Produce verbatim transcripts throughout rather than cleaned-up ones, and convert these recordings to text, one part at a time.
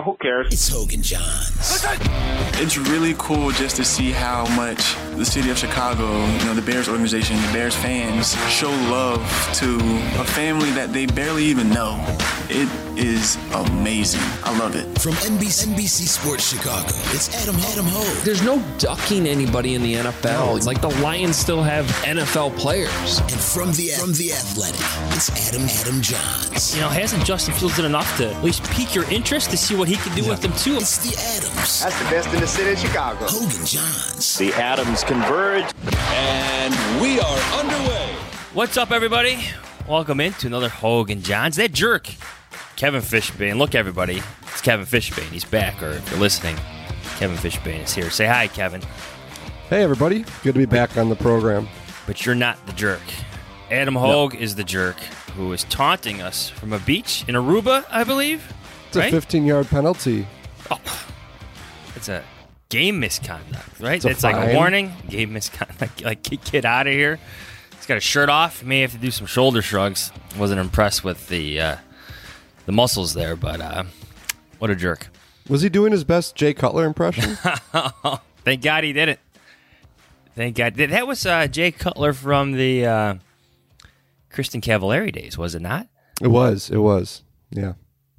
Uh, who cares? It's Hogan Johns. It's really cool just to see how much the city of Chicago, you know, the Bears organization, the Bears fans show love to a family that they barely even know. It is amazing. I love it. From N B C, N B C Sports Chicago, it's Adam, Adam Hogue. There's no ducking anybody in the N F L. It's like the Lions still have N F L players. And from the from the Athletic, it's Adam, Adam Johns. You know, hasn't Justin Fields done enough to at least pique your interest to see what he can do yeah. with them, too? It's the Adams. That's the best in the city of Chicago. Hogan Johns. The Adams converge, and we are underway. What's up, everybody? Welcome into another Hogan Johns. That jerk, Kevin Fishbane. Look, everybody, it's Kevin Fishbane. He's back, or if you're listening, Kevin Fishbane is here. Say hi, Kevin. Hey, everybody. Good to be back on the program. But you're not the jerk. Adam Hogue no. is the jerk who is taunting us from a beach in Aruba, I believe. It's right? a fifteen-yard penalty. Oh, it's a game misconduct, right? It's, a it's fine. like a warning. Game misconduct. Like, get, get out of here. He's got a shirt off. May have to do some shoulder shrugs. Wasn't impressed with the uh, the muscles there, but uh, what a jerk. Was he doing his best Jay Cutler impression? Thank God he didn't. Thank God. That was uh, Jay Cutler from the uh, Kristen Cavallari days, was it not? It was. It was. Yeah.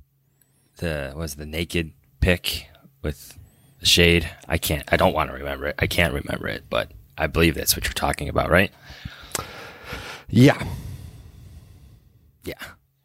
The was the naked pic with the shade. I can't. I don't want to remember it. I can't remember it, but I believe that's what you're talking about, right? Yeah. Yeah.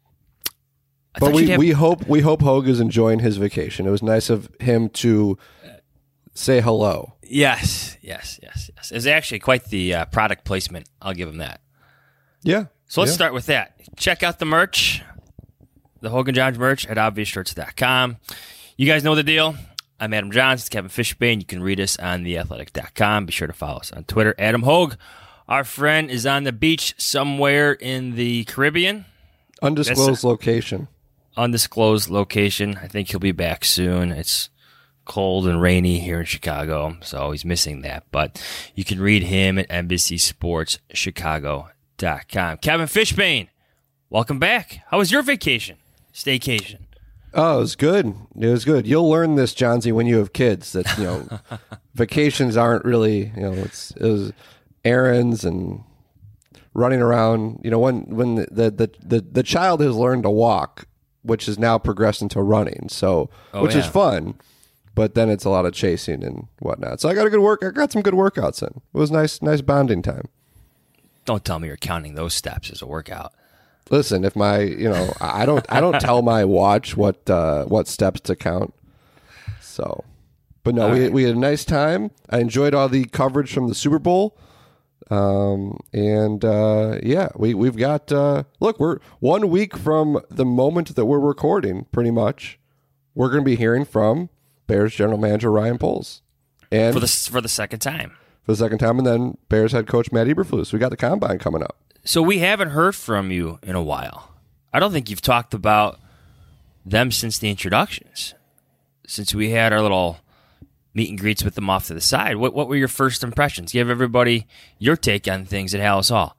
I but we, have... we hope we hope Hogue is enjoying his vacation. It was nice of him to say hello. Yes, yes, yes, yes. It was actually quite the uh, product placement. I'll give him that. Yeah. So let's yeah. start with that. Check out the merch, the Hogan Johns merch at obvious shirts dot com. You guys know the deal. I'm Adam Johns. It's Kevin Fishbane. You can read us on the athletic dot com. Be sure to follow us on Twitter. Adam Hogue, our friend, is on the beach somewhere in the Caribbean. Undisclosed a, location. Undisclosed location. I think he'll be back soon. It's cold and rainy here in Chicago, so he's missing that. But you can read him at Embassy Sports Chicago dot com. Kevin Fishbane, welcome back. How was your vacation? Staycation. Oh, it was good. It was good. You'll learn this, Johnsy, when you have kids, that, you know, vacations aren't really, you know, it's it was errands and running around. You know, when when the the the, the child has learned to walk, which has now progressed into running, so oh, which yeah. is fun. But then it's a lot of chasing and whatnot. So I got a good work. I got some good workouts in. It was nice, nice bonding time. Don't tell me you're counting those steps as a workout. Listen, if my, you know, I don't, I don't tell my watch what uh, what steps to count. So, but no, all we right. we had a nice time. I enjoyed all the coverage from the Super Bowl. Um, and uh, yeah, we we've got. Uh, look, we're one week from the moment that we're recording. Pretty much, we're going to be hearing from Bears general manager Ryan Poles, and for the for the second time, for the second time, and then Bears head coach Matt Eberflus. We got the combine coming up, so we haven't heard from you in a while. I don't think you've talked about them since the introductions, since we had our little meet and greets with them off to the side. What what were your first impressions? Give everybody your take on things at Halas Hall.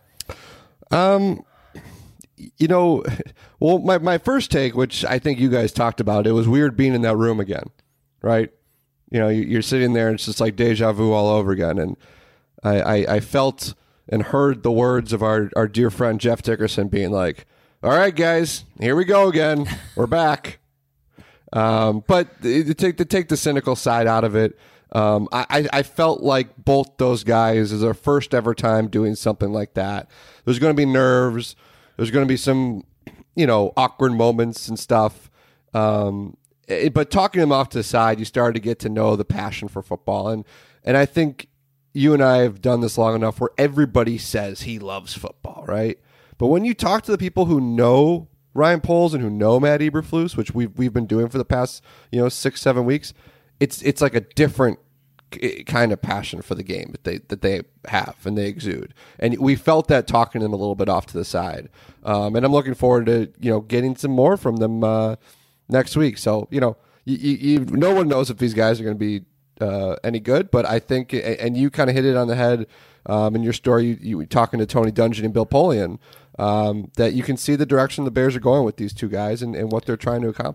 Um. You know, well, my, my first take, which I think you guys talked about, it was weird being in that room again, right? You know, you're sitting there and it's just like deja vu all over again. And I, I, I felt and heard the words of our, our dear friend Jeff Dickerson being like, all right, guys, here we go again. We're back. Um, but to take, to take the cynical side out of it, um, I, I felt like both those guys is their first ever time doing something like that. There's going to be nerves. There's going to be some, you know, awkward moments and stuff. Um, it, but talking them off to the side, you started to get to know the passion for football. And, and I think you and I have done this long enough where everybody says he loves football, right? But when you talk to the people who know Ryan Poles and who know Matt Eberflus, which we've, we've been doing for the past, you know, six, seven weeks, it's it's like a different kind of passion for the game that they that they have and they exude, and we felt that talking to them a little bit off to the side. Um, and I'm looking forward to you know getting some more from them uh, next week. So you know, you, you, you, no one knows if these guys are going to be uh, any good, but I think, and you kind of hit it on the head um, in your story. You, you were talking to Tony Dungy and Bill Polian, um, that you can see the direction the Bears are going with these two guys and, and what they're trying to accomplish.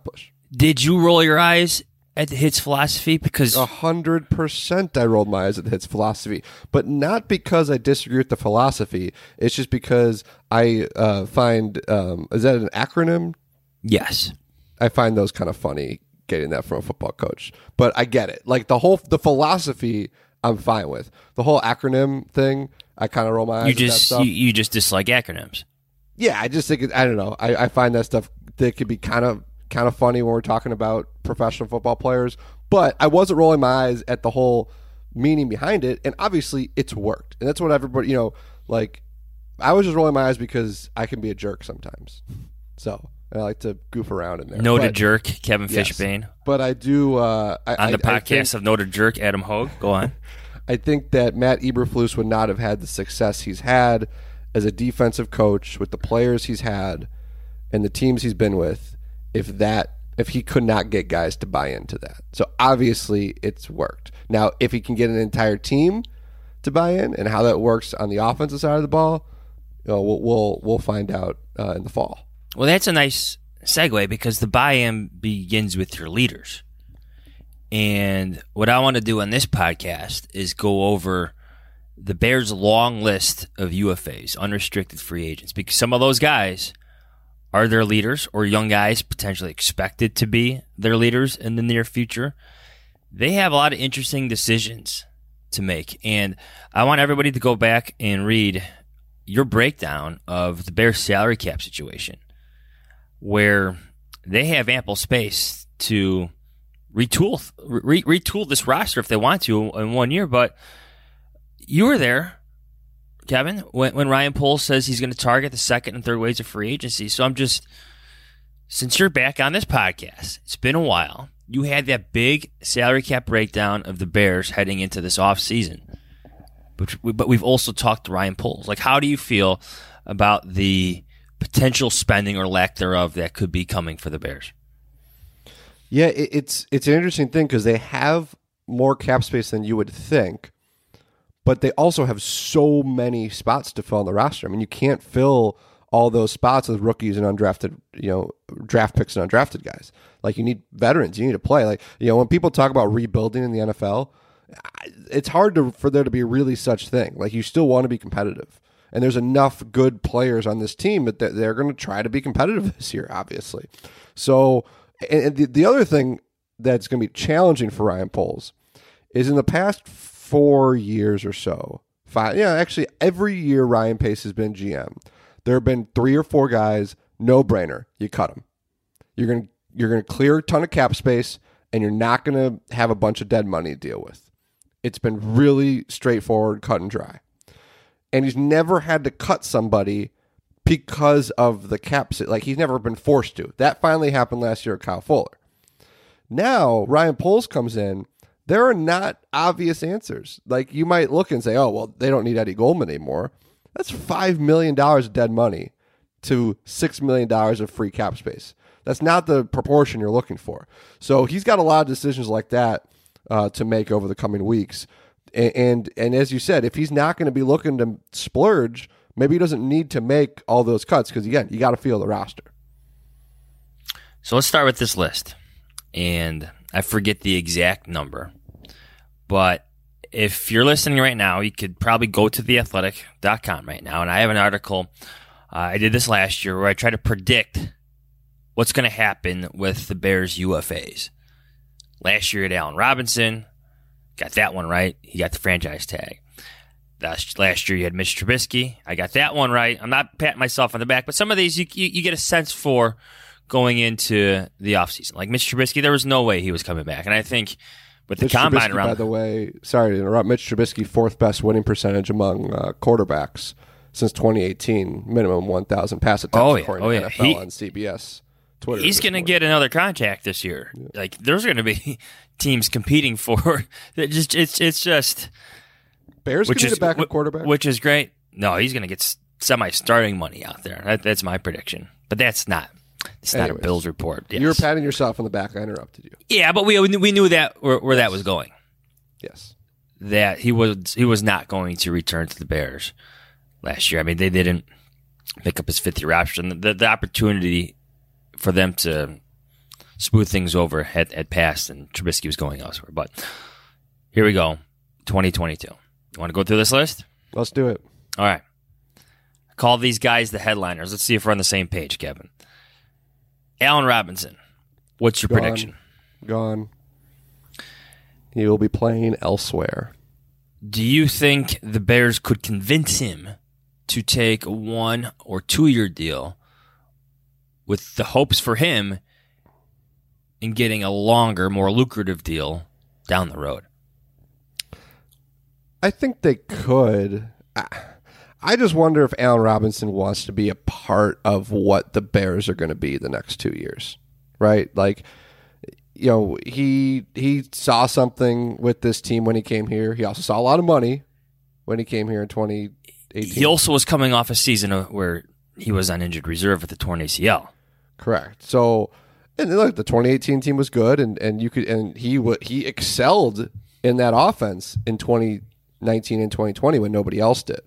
Did you roll your eyes at the Hits philosophy? Because A hundred percent I rolled my eyes at Hits philosophy, but not because I disagree with the philosophy. It's just because I uh, find, um, is that an acronym? yes, I find those kind of funny getting that from a football coach, but I get it. Like the whole, the philosophy I'm fine with. The whole acronym thing, I kind of roll my eyes you at that just stuff. you, you just dislike acronyms. Yeah, I just think it, I don't know. I, I find that stuff that could be kind of kind of funny when we're talking about professional football players. But I wasn't rolling my eyes at the whole meaning behind it, and obviously it's worked, and that's what everybody, you know, like I was just rolling my eyes because I can be a jerk sometimes. So I like to goof around in there. Noted but, jerk, Kevin yes. Fishbane. But I do uh, I, On the I, I podcast think, of Noted Jerk, Adam Hogue. Go on. I think that Matt Eberflus would not have had the success he's had as a defensive coach with the players he's had and the teams he's been with if that if he could not get guys to buy into that. So obviously it's worked. Now, if he can get an entire team to buy in and how that works on the offensive side of the ball, you know, we'll we'll, we'll find out uh, in the fall. Well, that's a nice segue because the buy-in begins with your leaders. And what I want to do on this podcast is go over the Bears' long list of U F As, unrestricted free agents, because some of those guys are their leaders or young guys potentially expected to be their leaders in the near future. They have a lot of interesting decisions to make. And I want everybody to go back and read your breakdown of the Bears' salary cap situation, where they have ample space to retool re- retool this roster if they want to in one year. But you were there, Kevin, when, when Ryan Poles says he's going to target the second and third waves of free agency. So I'm just, since you're back on this podcast, it's been a while. You had that big salary cap breakdown of the Bears heading into this offseason. But, but we've also talked to Ryan Poles. Like, how do you feel about the potential spending or lack thereof that could be coming for the Bears? Yeah, it, it's it's an interesting thing because they have more cap space than you would think, but they also have so many spots to fill on the roster. I mean, you can't fill all those spots with rookies and undrafted, you know, draft picks and undrafted guys. Like, you need veterans. You need to play. Like, you know, when people talk about rebuilding in the N F L, it's hard to, for there to be really such thing. Like, you still want to be competitive. And there's enough good players on this team that they're going to try to be competitive this year, obviously. So, and the, the other thing that's going to be challenging for Ryan Poles is in the past four years or so, five, yeah, actually every year Ryan Pace has been G M, there have been three or four guys, no brainer, you cut them. You're going to you're going to clear a ton of cap space, and you're not going to have a bunch of dead money to deal with. It's been really straightforward, cut and dry. And he's never had to cut somebody because of the cap. Like, he's never been forced to. That finally happened last year with Kyle Fuller. Now, Ryan Poles comes in. There are not obvious answers. Like, you might look and say, oh, well, they don't need Eddie Goldman anymore. That's five million dollars of dead money to six million dollars of free cap space. That's not the proportion you're looking for. So he's got a lot of decisions like that uh, to make over the coming weeks. And, and and as you said, if he's not going to be looking to splurge, maybe he doesn't need to make all those cuts because, again, you got to feel the roster. So let's start with this list. And I forget the exact number. But if you're listening right now, you could probably go to the athletic dot com right now. And I have an article. Uh, I did this last year where I try to predict what's going to happen with the Bears U F As. Last year at Allen Robinson, got that one right. He got the franchise tag. Last, last year you had Mitch Trubisky. I got that one right. I'm not patting myself on the back, but some of these you, you, you get a sense for going into the offseason. Like Mitch Trubisky, there was no way he was coming back. And I think with the Mitch combine Trubisky, around... by the way, sorry to interrupt, Mitch Trubisky, fourth best winning percentage among uh, quarterbacks since twenty eighteen, minimum one thousand pass attempts, oh, yeah. according oh, to yeah. N F L he, on C B S Twitter. He's going to get another contract this year. Yeah. Like, there's going to be teams competing for it. Just, it's, it's just... Bears which can is, get a backup quarterback? Which is great. No, he's going to get semi-starting money out there. That, that's my prediction. But that's not... It's Anyways, not a Bills report. Yes. You were patting yourself on the back. I interrupted you. Yeah, but we we knew that where, where yes. that was going. Yes, that he was he was not going to return to the Bears last year. I mean, they didn't pick up his fifth year option. The, the opportunity for them to smooth things over had, had passed and Trubisky was going elsewhere. But here we go, twenty twenty-two. You want to go through this list? Let's do it. All right. Call these guys the headliners. Let's see if we're on the same page, Kevin. Allen Robinson, what's your Gone. prediction? Gone. He will be playing elsewhere. Do you think the Bears could convince him to take a one or two year deal with the hopes for him in getting a longer, more lucrative deal down the road? I think they could. I, I just wonder if Allen Robinson wants to be a part of what the Bears are going to be the next two years, right? Like, you know, he he saw something with this team when he came here. He also saw a lot of money when he came here in twenty eighteen. He also was coming off a season where he was on injured reserve with the torn A C L. Correct. So, and look, the twenty eighteen team was good, and, and you could and he w- he excelled in that offense in twenty nineteen and twenty twenty when nobody else did.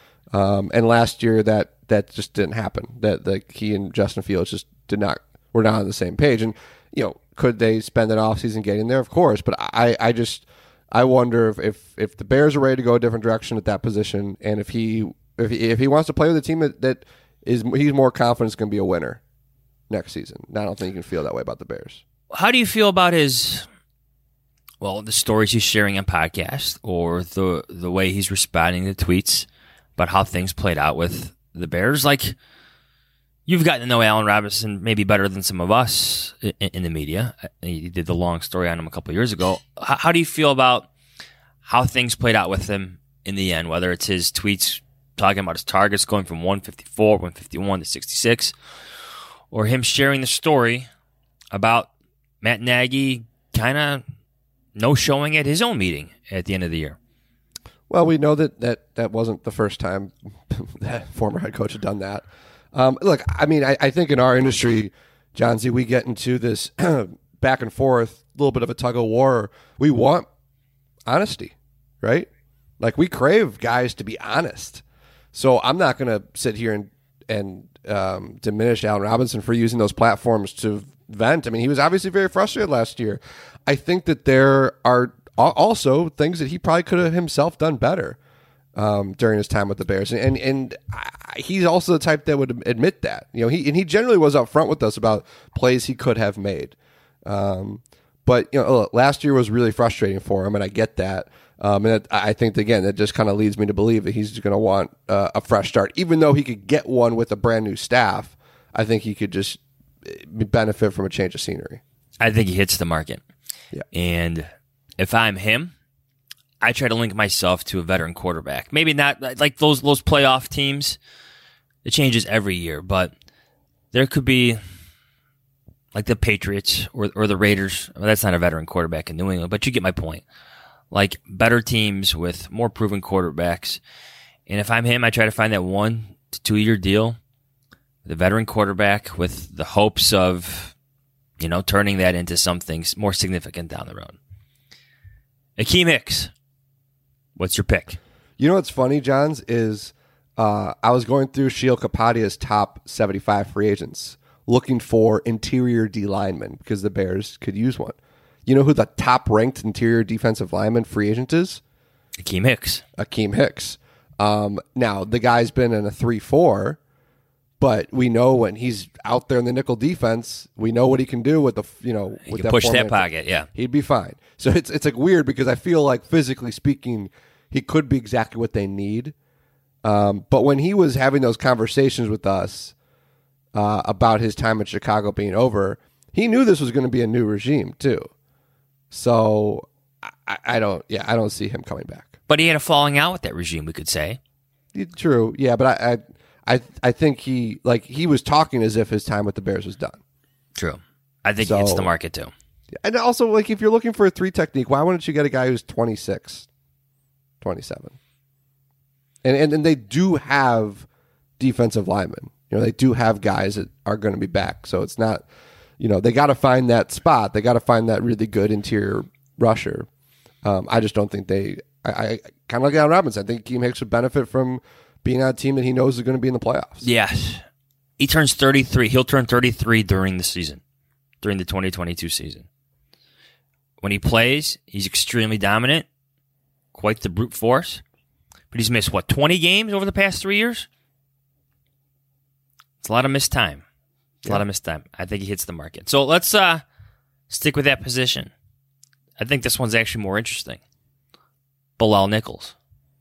Um, and last year that that just didn't happen. That like he and Justin Fields just did not were not on the same page. And you know, could they spend an offseason getting there? Of course, but I, I just I wonder if, if if the Bears are ready to go a different direction at that position, and if he if he, if he wants to play with a team that, that is he's more confident is going to be a winner next season. I don't think you can feel that way about the Bears. How do you feel about his, well, the stories he's sharing on podcasts or the the way he's responding to tweets about how things played out with the Bears? Like, you've gotten to know Allen Robinson maybe better than some of us in, in the media. You did the long story on him a couple of years ago. How, how do you feel about how things played out with him in the end, whether it's his tweets talking about his targets going from one fifty-four, one fifty-one to sixty-six, or him sharing the story about Matt Nagy kind of no-showing at his own meeting at the end of the year? Well, we know that that, that wasn't the first time that former head coach had done that. Um, look, I mean, I, I think in our industry, John Z, we get into this back and forth, a little bit of a tug of war. We want honesty, right? Like, we crave guys to be honest. So I'm not going to sit here and, and um, diminish Allen Robinson for using those platforms to vent. I mean, he was obviously very frustrated last year. I think that there are also things that he probably could have himself done better um, during his time with the Bears, and and, and I, he's also the type that would admit that. You know, he and he generally was upfront with us about plays he could have made. Um, but you know, look, last year was really frustrating for him, and I get that. Um, and it, I think again that just kind of leads me to believe that he's going to want uh, a fresh start, even though he could get one with a brand new staff. I think he could just benefit from a change of scenery. I think he hits the market. Yeah. And if I'm him, I try to link myself to a veteran quarterback. Maybe not like those those playoff teams. It changes every year, but there could be like the Patriots or or the Raiders. Well, that's not a veteran quarterback in New England, but you get my point. Like better teams with more proven quarterbacks. And if I'm him, I try to find that one to two year deal, the veteran quarterback with the hopes of, you know, turning that into something more significant down the road. Akeem Hicks, what's your pick? You know what's funny, Johns, is uh, I was going through Sheil Kapadia's top seventy-five free agents looking for interior D linemen because the Bears could use one. You know who the top-ranked interior defensive lineman free agent is? Akeem Hicks. Akeem Hicks. Um, now, the guy's been in a three four, but we know when he's out there in the nickel defense, we know what he can do with the, you know, He with can that push that four-man pocket, yeah. He'd be fine. So it's it's like weird because I feel like physically speaking, he could be exactly what they need. Um, but when he was having those conversations with us uh, about his time in Chicago being over, he knew this was going to be a new regime too. So I, I don't, yeah, I don't see him coming back. But he had a falling out with that regime, we could say. True, yeah, but I, I, I, I think he like he was talking as if his time with the Bears was done. True. I think So- he hits the market too. And also, like, if you're looking for a three technique, why wouldn't you get a guy who's twenty-six, twenty-seven? And, and and they do have defensive linemen. You know, they do have guys that are going to be back. So it's not, you know, they got to find that spot. They got to find that really good interior rusher. Um, I just don't think they, I, I kind of like Allen Robinson. I think Akeem Hicks would benefit from being on a team that he knows is going to be in the playoffs. Yes. He turns thirty-three. He'll turn thirty-three during the season. during the twenty twenty-two season. When he plays, he's extremely dominant, quite the brute force. But he's missed, what, twenty games over the past three years? It's a lot of missed time. It's yeah. a lot of missed time. I think he hits the market. So let's uh, stick with that position. I think this one's actually more interesting. Bilal Nichols.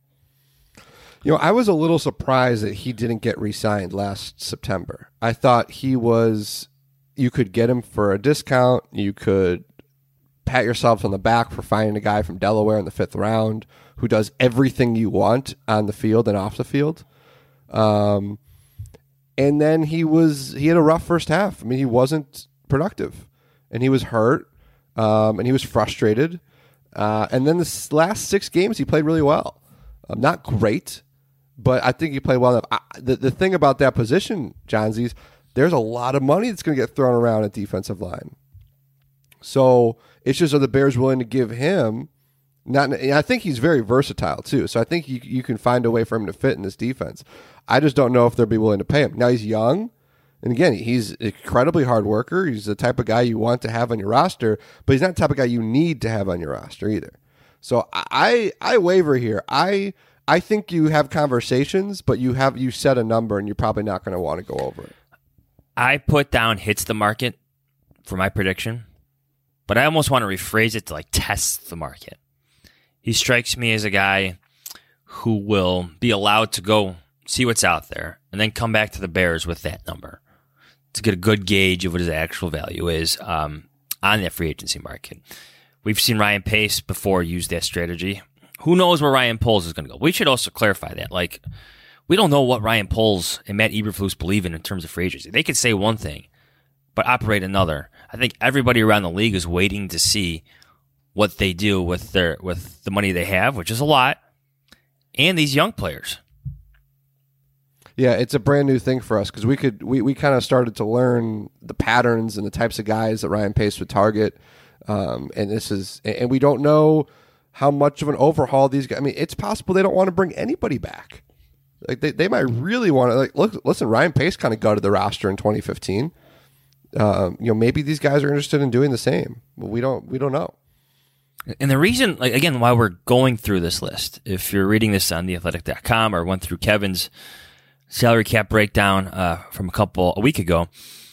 You know, I was a little surprised that he didn't get re-signed last September. I thought he was, you could get him for a discount. You could pat yourself on the back for finding a guy from Delaware in the fifth round who does everything you want on the field and off the field. Um, and then he was, he had a rough first half. I mean, he wasn't productive and he was hurt um, and he was frustrated. Uh, and then the last six games, he played really well. Um, not great, but I think he played well enough. I, the, the thing about that position, Johnsies, there's a lot of money that's going to get thrown around at defensive line. So it's just, are the Bears willing to give him, not? And I think he's very versatile too. So I think you, you can find a way for him to fit in this defense. I just don't know if they'll be willing to pay him. Now he's young. And again, he's an incredibly hard worker. He's the type of guy you want to have on your roster, but he's not the type of guy you need to have on your roster either. So I I waver here. I I think you have conversations, but you have you set a number, and you're probably not going to want to go over it. I put down hits the market for my prediction, but I almost want to rephrase it to like test the market. He strikes me as a guy who will be allowed to go see what's out there and then come back to the Bears with that number to get a good gauge of what his actual value is um, on that free agency market. We've seen Ryan Pace before use that strategy. Who knows where Ryan Poles is going to go? We should also clarify that. Like, we don't know what Ryan Poles and Matt Eberflus believe in in terms of free agency. They could say one thing, but operate another. I think everybody around the league is waiting to see what they do with their with the money they have, which is a lot, and these young players. Yeah, it's a brand new thing for us because we could we, we kind of started to learn the patterns and the types of guys that Ryan Pace would target, um, and this is and we don't know how much of an overhaul these guys. I mean, it's possible they don't want to bring anybody back. Like they, they might really want to. Like, look, listen, Ryan Pace kind of gutted the roster in twenty fifteen. Um, you know, maybe these guys are interested in doing the same. But we don't we don't know. And the reason, like again, why we're going through this list, if you're reading this on the athletic dot com or went through Kevin's salary cap breakdown uh, from a couple a week ago,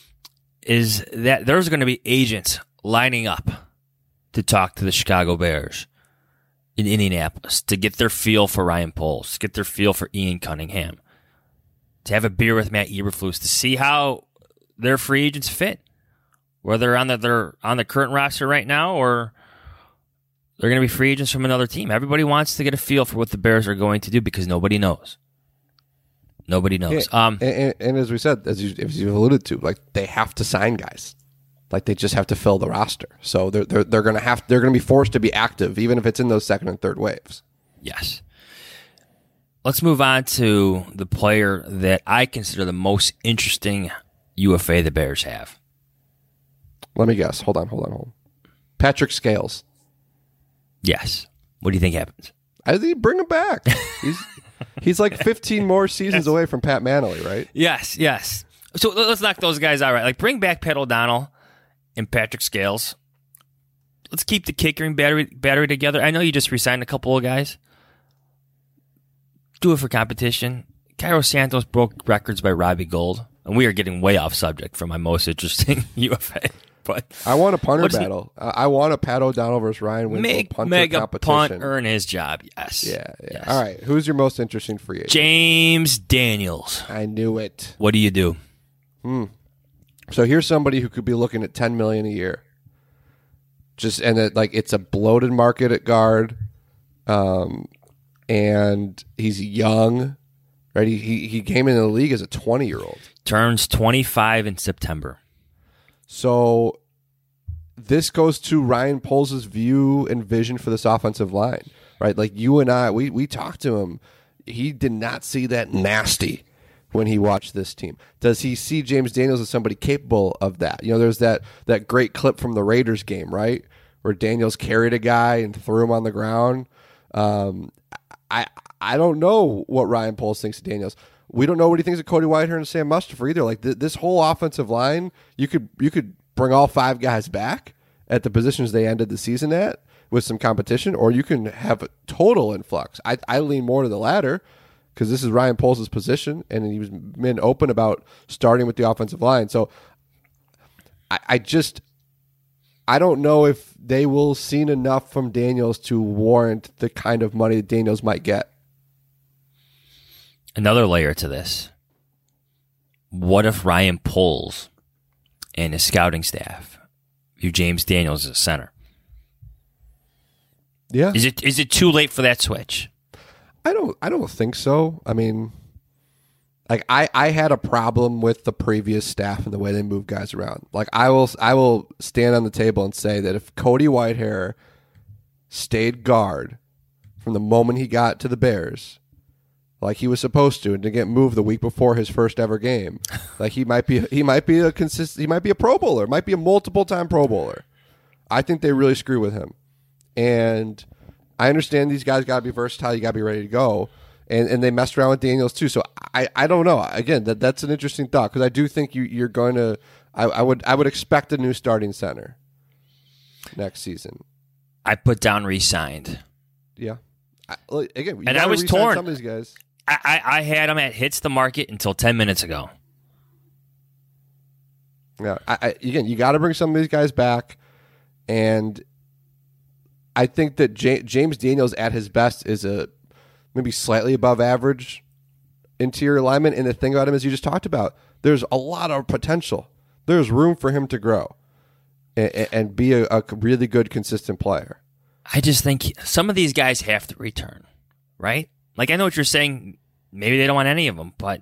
is that there's going to be agents lining up to talk to the Chicago Bears in Indianapolis to get their feel for Ryan Poles, to get their feel for Ian Cunningham, to have a beer with Matt Eberflus, to see how their free agents fit, whether they're on the, they're on the current roster right now or they're going to be free agents from another team. Everybody wants to get a feel for what the Bears are going to do because nobody knows. Nobody knows. Yeah, um, and, and, and as we said, as you, as you alluded to, like they have to sign guys, like they just have to fill the roster. So they're they're they're gonna have they're gonna be forced to be active, even if it's in those second and third waves. Yes. Let's move on to the player that I consider the most interesting U F A the Bears have. Let me guess. Hold on. Hold on. Hold on. Patrick Scales. Yes. What do you think happens? I think bring him back. He's. He's like fifteen more seasons away from Pat Manley, right? Yes, yes. So let's knock those guys out, right? Like, bring back Pat O'Donnell and Patrick Scales. Let's keep the kickering battery battery together. I know you just re-signed a couple of guys. Do it for competition. Cairo Santos broke records by Robbie Gould, and we are getting way off subject from my most interesting U F A. But I want a punter battle. He, I want a Pat O'Donnell versus Ryan Winslow make, punter make competition. Make a punt, earn his job. Yes. Yeah. yeah. Yes. All right. Who's your most interesting free agent? James Daniels. I knew it. What do you do? Hmm. So here's somebody who could be looking at ten million dollars a year. Just and it, like it's a bloated market at guard, um, and he's young, right? He, he he came into the league as a twenty year old. Turns twenty-five in September. So this goes to Ryan Poles' view and vision for this offensive line, right? Like you and I, we we talked to him. He did not see that nasty when he watched this team. Does he see James Daniels as somebody capable of that? You know, there's that that great clip from the Raiders game, right, where Daniels carried a guy and threw him on the ground. Um, I I don't know what Ryan Poles thinks of Daniels. We don't know what he thinks of Cody Whitehair and Sam Mustipher either. Like th- this whole offensive line, you could you could bring all five guys back at the positions they ended the season at with some competition, or you can have a total influx. I, I lean more to the latter because this is Ryan Poles' position, and he was been open about starting with the offensive line. So I, I just I don't know if they will see enough from Daniels to warrant the kind of money that Daniels might get. Another layer to this. What if Ryan Poles and his scouting staff view James Daniels as center? Yeah. Is it is it too late for that switch? I don't I don't think so. I mean, like I, I had a problem with the previous staff and the way they move guys around. Like I will I will stand on the table and say that if Cody Whitehair stayed guard from the moment he got to the Bears, like he was supposed to, and to get moved the week before his first ever game, like he might be he might be a consist he might be a Pro Bowler, might be a multiple time Pro Bowler. I think they really screw with him. And I understand these guys got to be versatile. You got to be ready to go. And and they messed around with Daniels too. So I, I don't know. Again, that that's an interesting thought because I do think you you're going to. I, I would I would expect a new starting center next season. I put down re-signed. Yeah. I, like, again, you and I gotta was re-sign torn. Some of these guys. I, I I had him at hits the market until ten minutes ago. Yeah. I, I, again, you got to bring some of these guys back, and I think that J- James Daniels at his best is a maybe slightly above average interior lineman. And the thing about him is you just talked about, there's a lot of potential. There's room for him to grow and, and be a, a really good, consistent player. I just think some of these guys have to return, right? Like, I know what you're saying. Maybe they don't want any of them, but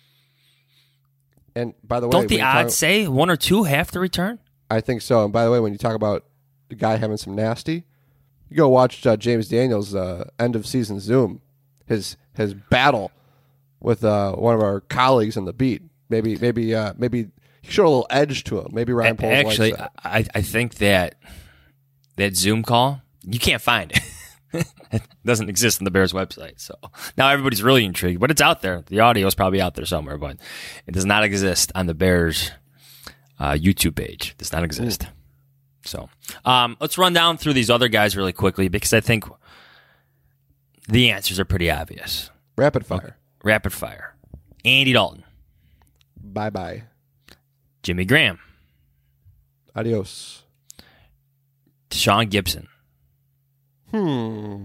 and by the way, don't the when you odds talk- say one or two have to return? I think so. And by the way, when you talk about the guy having some nasty, you go watch uh, James Daniels' uh, end of season Zoom, his his battle with uh, one of our colleagues on the beat. Maybe maybe uh, maybe he showed a little edge to him. Maybe Ryan Poles Actually, likes that. I I think that that Zoom call you can't find it. It doesn't exist on the Bears website. So now everybody's really intrigued, but it's out there. The audio is probably out there somewhere, but it does not exist on the Bears uh, YouTube page. It does not exist. Ooh. So um, let's run down through these other guys really quickly because I think the answers are pretty obvious. Rapid fire. Okay. Rapid fire. Andy Dalton. Bye-bye. Jimmy Graham. Adios. Deshaun Gibson. Hmm.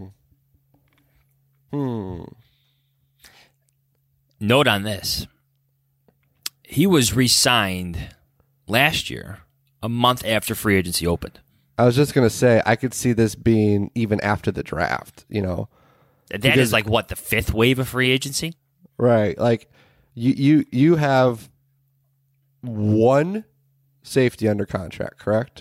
Hmm. Note on this. He was re-signed last year, a month after free agency opened. I was just going to say, I could see this being even after the draft, you know. That because, is like, what, the fifth wave of free agency? Right. Like, you, you, you have one safety under contract, correct?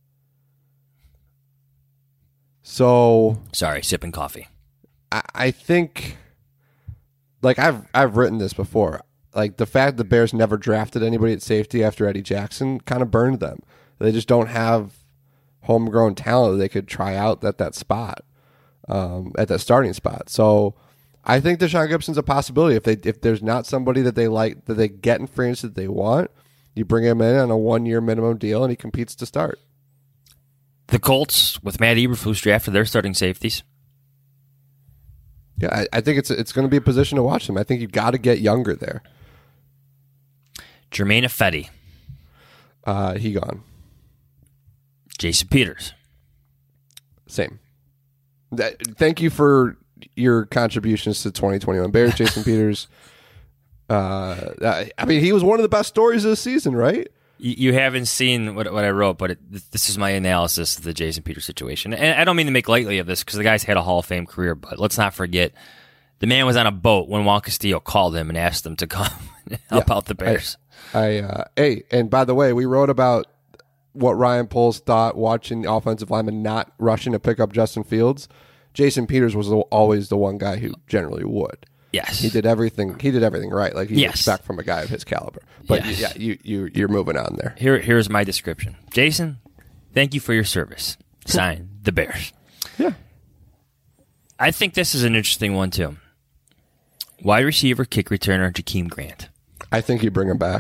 So... Sorry, sipping coffee. I, I think, like, I've I've written this before. Like, the fact the Bears never drafted anybody at safety after Eddie Jackson kind of burned them. They just don't have homegrown talent that they could try out at that spot, um, at that starting spot. So I think Deshaun Gibson's a possibility. If they if there's not somebody that they like, that they get in free agency that they want, you bring him in on a one-year minimum deal and he competes to start. The Colts, with Matt Eberflus, drafted their starting safeties. Yeah, I, I think it's it's going to be a position to watch them. I think you've got to get younger there. Jermaine Ifedi. Uh, he gone. Jason Peters. Same. That, thank you for your contributions to twenty twenty-one Bears. Jason Peters. Uh, I mean, he was one of the best stories of the season, right? You, you haven't seen what what I wrote, but it, this is my analysis of the Jason Peters situation. And I don't mean to make lightly of this because the guy's had a Hall of Fame career, but let's not forget the man was on a boat when Juan Castillo called him and asked him to come and help yeah, out the Bears. I, I uh, hey, and by the way, we wrote about what Ryan Poles thought watching the offensive lineman not rushing to pick up Justin Fields. Jason Peters was the, always the one guy who generally would. Yes, he did everything. He did everything right, like you yes. expect from a guy of his caliber. But yes. yeah, you you you're moving on there. Here, here's my description. Jason, thank you for your service. Sign the Bears. Yeah, I think this is an interesting one too. Wide receiver, kick returner, Jakeem Grant. I think you bring him back.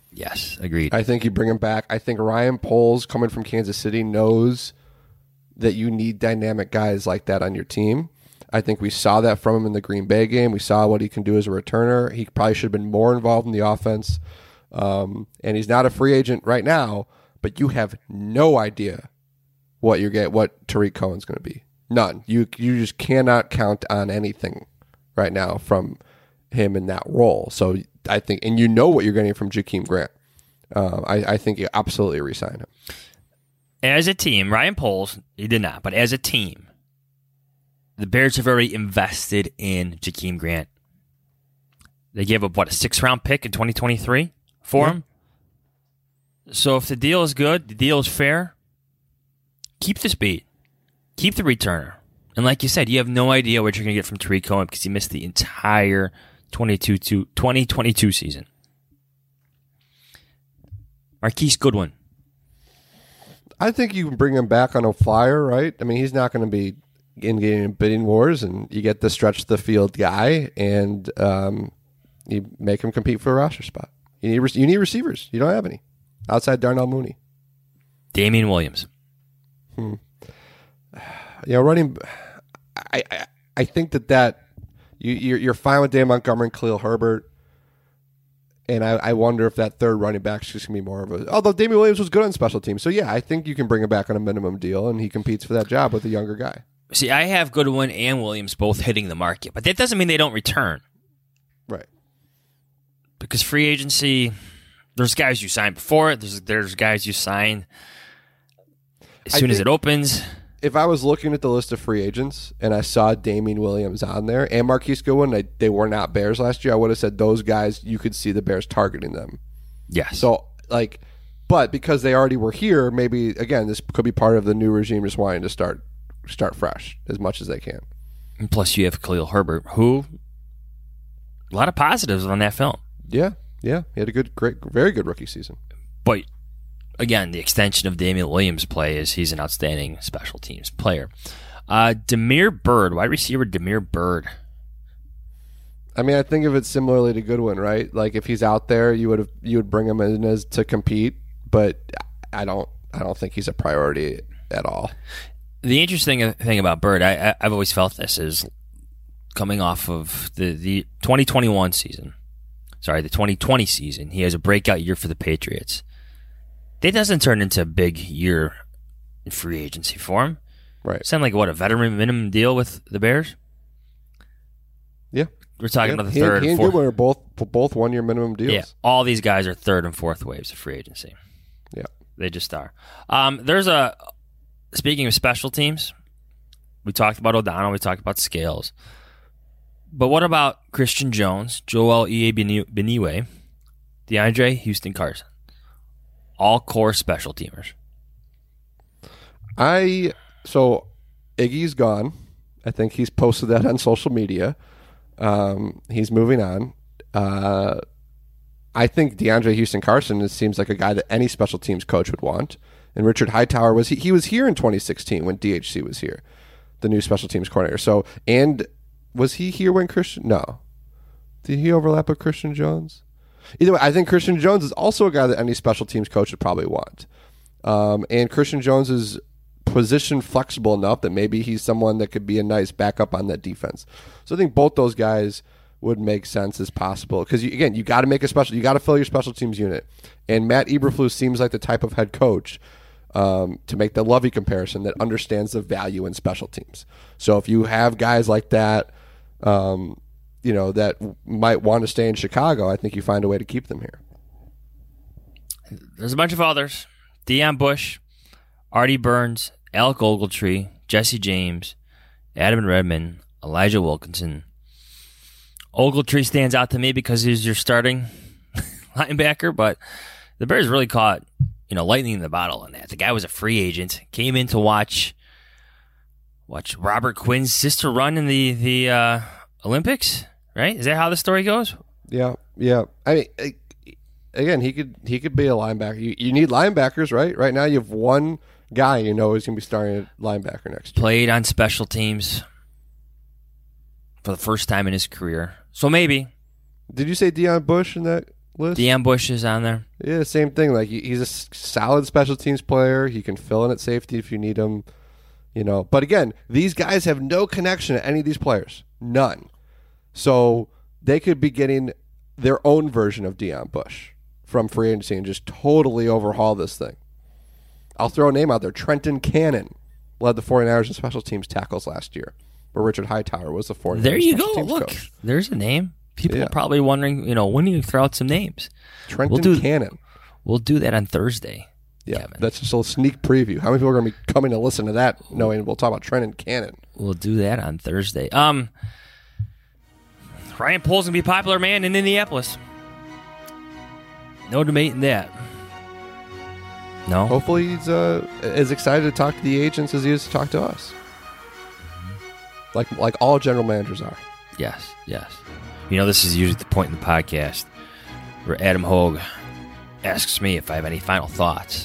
Yes, agreed. I think you bring him back. I think Ryan Poles, coming from Kansas City, knows that you need dynamic guys like that on your team. I think we saw that from him in the Green Bay game. We saw what he can do as a returner. He probably should have been more involved in the offense. Um, and he's not a free agent right now, but you have no idea what you're get what Tariq Cohen's going to be. None. You you just cannot count on anything right now from him in that role. So I think, and you know what you're getting from Jakeem Grant. Uh, I, I think you absolutely re-sign him. As a team, Ryan Poles, he did not, but as a team, the Bears have already invested in Jakeem Grant. They gave up, what, a six-round pick in twenty twenty-three for yeah. him? So if the deal is good, the deal is fair, keep the speed. Keep the returner. And like you said, you have no idea what you're going to get from Tariq Cohen because he missed the entire twenty twenty-two season. Marquise Goodwin. I think you can bring him back on a flyer, right? I mean, he's not going to be in getting bidding wars, and you get the stretch the field guy, and um, you make him compete for a roster spot. You need you need receivers. You don't have any outside Darnell Mooney. Damian Williams. Hmm. You know, running. I, I I think that that you you're, you're fine with Dan Montgomery and Khalil Herbert, and I, I wonder if that third running back is just gonna be more of a. Although Damian Williams was good on special teams, so yeah, I think you can bring him back on a minimum deal, and he competes for that job with a younger guy. See, I have Goodwin and Williams both hitting the market, but that doesn't mean they don't return, right? Because free agency, there's guys you sign before it. There's there's guys you sign as soon as it opens. If I was looking at the list of free agents and I saw Damian Williams on there and Marquise Goodwin, they, they were not Bears last year, I would have said those guys, you could see the Bears targeting them. Yes. So, like, but because they already were here, maybe, again, this could be part of the new regime just wanting to start start fresh as much as they can. And plus, you have Khalil Herbert, who, a lot of positives on that film. Yeah, yeah. He had a good, great, very good rookie season. But again, the extension of Damian Williams' play is he's an outstanding special teams player. Uh, Damiere Byrd, wide receiver Damiere Byrd. I mean, I think of it similarly to Goodwin, right? Like if he's out there, you would have you would bring him in as to compete, but I don't I don't think he's a priority at all. The interesting thing about Byrd, I, I, I've always felt this, is coming off of the, the twenty twenty-one season, sorry, the twenty twenty season, he has a breakout year for the Patriots. That doesn't turn into a big year in free agency for him. Right. Sound like, what, a veteran minimum deal with the Bears? Yeah. We're talking yeah. about the he third and, he and and fourth. Goodwin are both, both one-year minimum deals. Yeah, all these guys are third and fourth waves of free agency. Yeah. They just are. Um, there's a, speaking of special teams, we talked about O'Donnell, we talked about Scales. But what about Christian Jones, Joel Iyiegbuniwe, DeAndre Houston Carson? All core special teamers. I so Iggy's gone. I think he's posted that on social media. Um, he's moving on. Uh, I think DeAndre Houston Carson it seems like a guy that any special teams coach would want. And Richard Hightower was he, he was here in twenty sixteen when D H C was here, the new special teams coordinator. So and was he here when Christian? No, did he overlap with Christian Jones? Either way, I think Christian Jones is also a guy that any special teams coach would probably want. Um, and Christian Jones is position flexible enough that maybe he's someone that could be a nice backup on that defense. So I think both those guys would make sense as possible. Because, again, you got to make a special, you got to fill your special teams unit. And Matt Eberflus seems like the type of head coach, um, to make the Lovey comparison, that understands the value in special teams. So if you have guys like that, um, you know, that might want to stay in Chicago, I think you find a way to keep them here. There's a bunch of others. Deion Bush, Artie Burns, Alec Ogletree, Jesse James, Adam Redmond, Elijah Wilkinson. Ogletree stands out to me because he's your starting linebacker, but the Bears really caught, you know, lightning in the bottle on that. The guy was a free agent, came in to watch watch Robert Quinn's sister run in the, the uh, Olympics. Right? Is that how the story goes? Yeah, yeah. I mean, again, he could he could be a linebacker. You, you need linebackers, right? Right now, you have one guy you know is going to be starting at linebacker next year. Played on special teams for the first time in his career, so maybe. Did you say Deion Bush in that list. Deon Bush is on there. Yeah, same thing. Like he- he's a s- solid special teams player. He can fill in at safety if you need him. You know, but again, these guys have no connection to any of these players. None. So they could be getting their own version of Deon Bush from free agency and just totally overhaul this thing. I'll throw a name out there. Trenton Cannon led the 49ers in special teams tackles last year, where Richard Hightower was the 49ers There you special go. teams Look, coach. there's a name. People Yeah. are probably wondering, you know, when do you throw out some names? Trenton We'll do- Cannon. We'll do that on Thursday. Yeah, Kevin. that's just a little sneak preview. How many people are going to be coming to listen to that knowing we'll talk about Trenton Cannon? We'll do that on Thursday. Um, Ryan Poles going to be a popular man in Indianapolis. No debating that. No? Hopefully he's uh, as excited to talk to the agents as he is to talk to us. Like like all general managers are. Yes, yes. You know, this is usually the point in the podcast where Adam Hogue asks me if I have any final thoughts.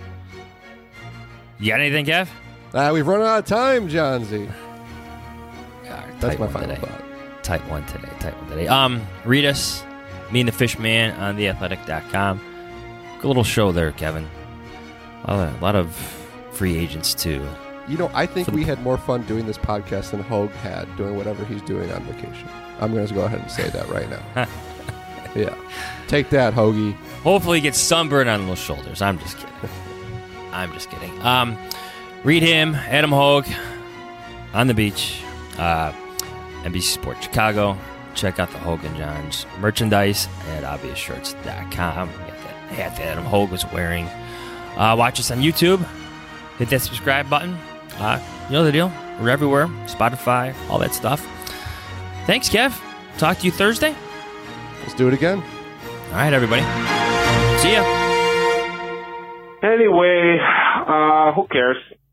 You got anything, Kev? Ah, we've run out of time, John Z. Yeah, That's tight my one final today. thought. Tight one today. Tight one today. Um, read us, me and the Fish Man on the athletic dot com. Good little show there, Kevin. A lot of, a lot of free agents too. You know, I think For the- we had more fun doing this podcast than Hogue had doing whatever he's doing on vacation. I'm going to go ahead and say that right now. Yeah. Take that, Hoagie. Hopefully, he gets sunburned on those shoulders. I'm just kidding. I'm just kidding. Um, read him, Adam Hogue, on the beach, uh, N B C Sports Chicago. Check out the Hogue and Johns merchandise at obvious shirts dot com. We got that hat that Adam Hogue was wearing. Uh, watch us on YouTube. Hit that subscribe button. Uh, you know the deal. We're everywhere. Spotify, all that stuff. Thanks, Kev. Talk to you Thursday. Let's do it again. All right, everybody. See ya. Anyway, uh, who cares?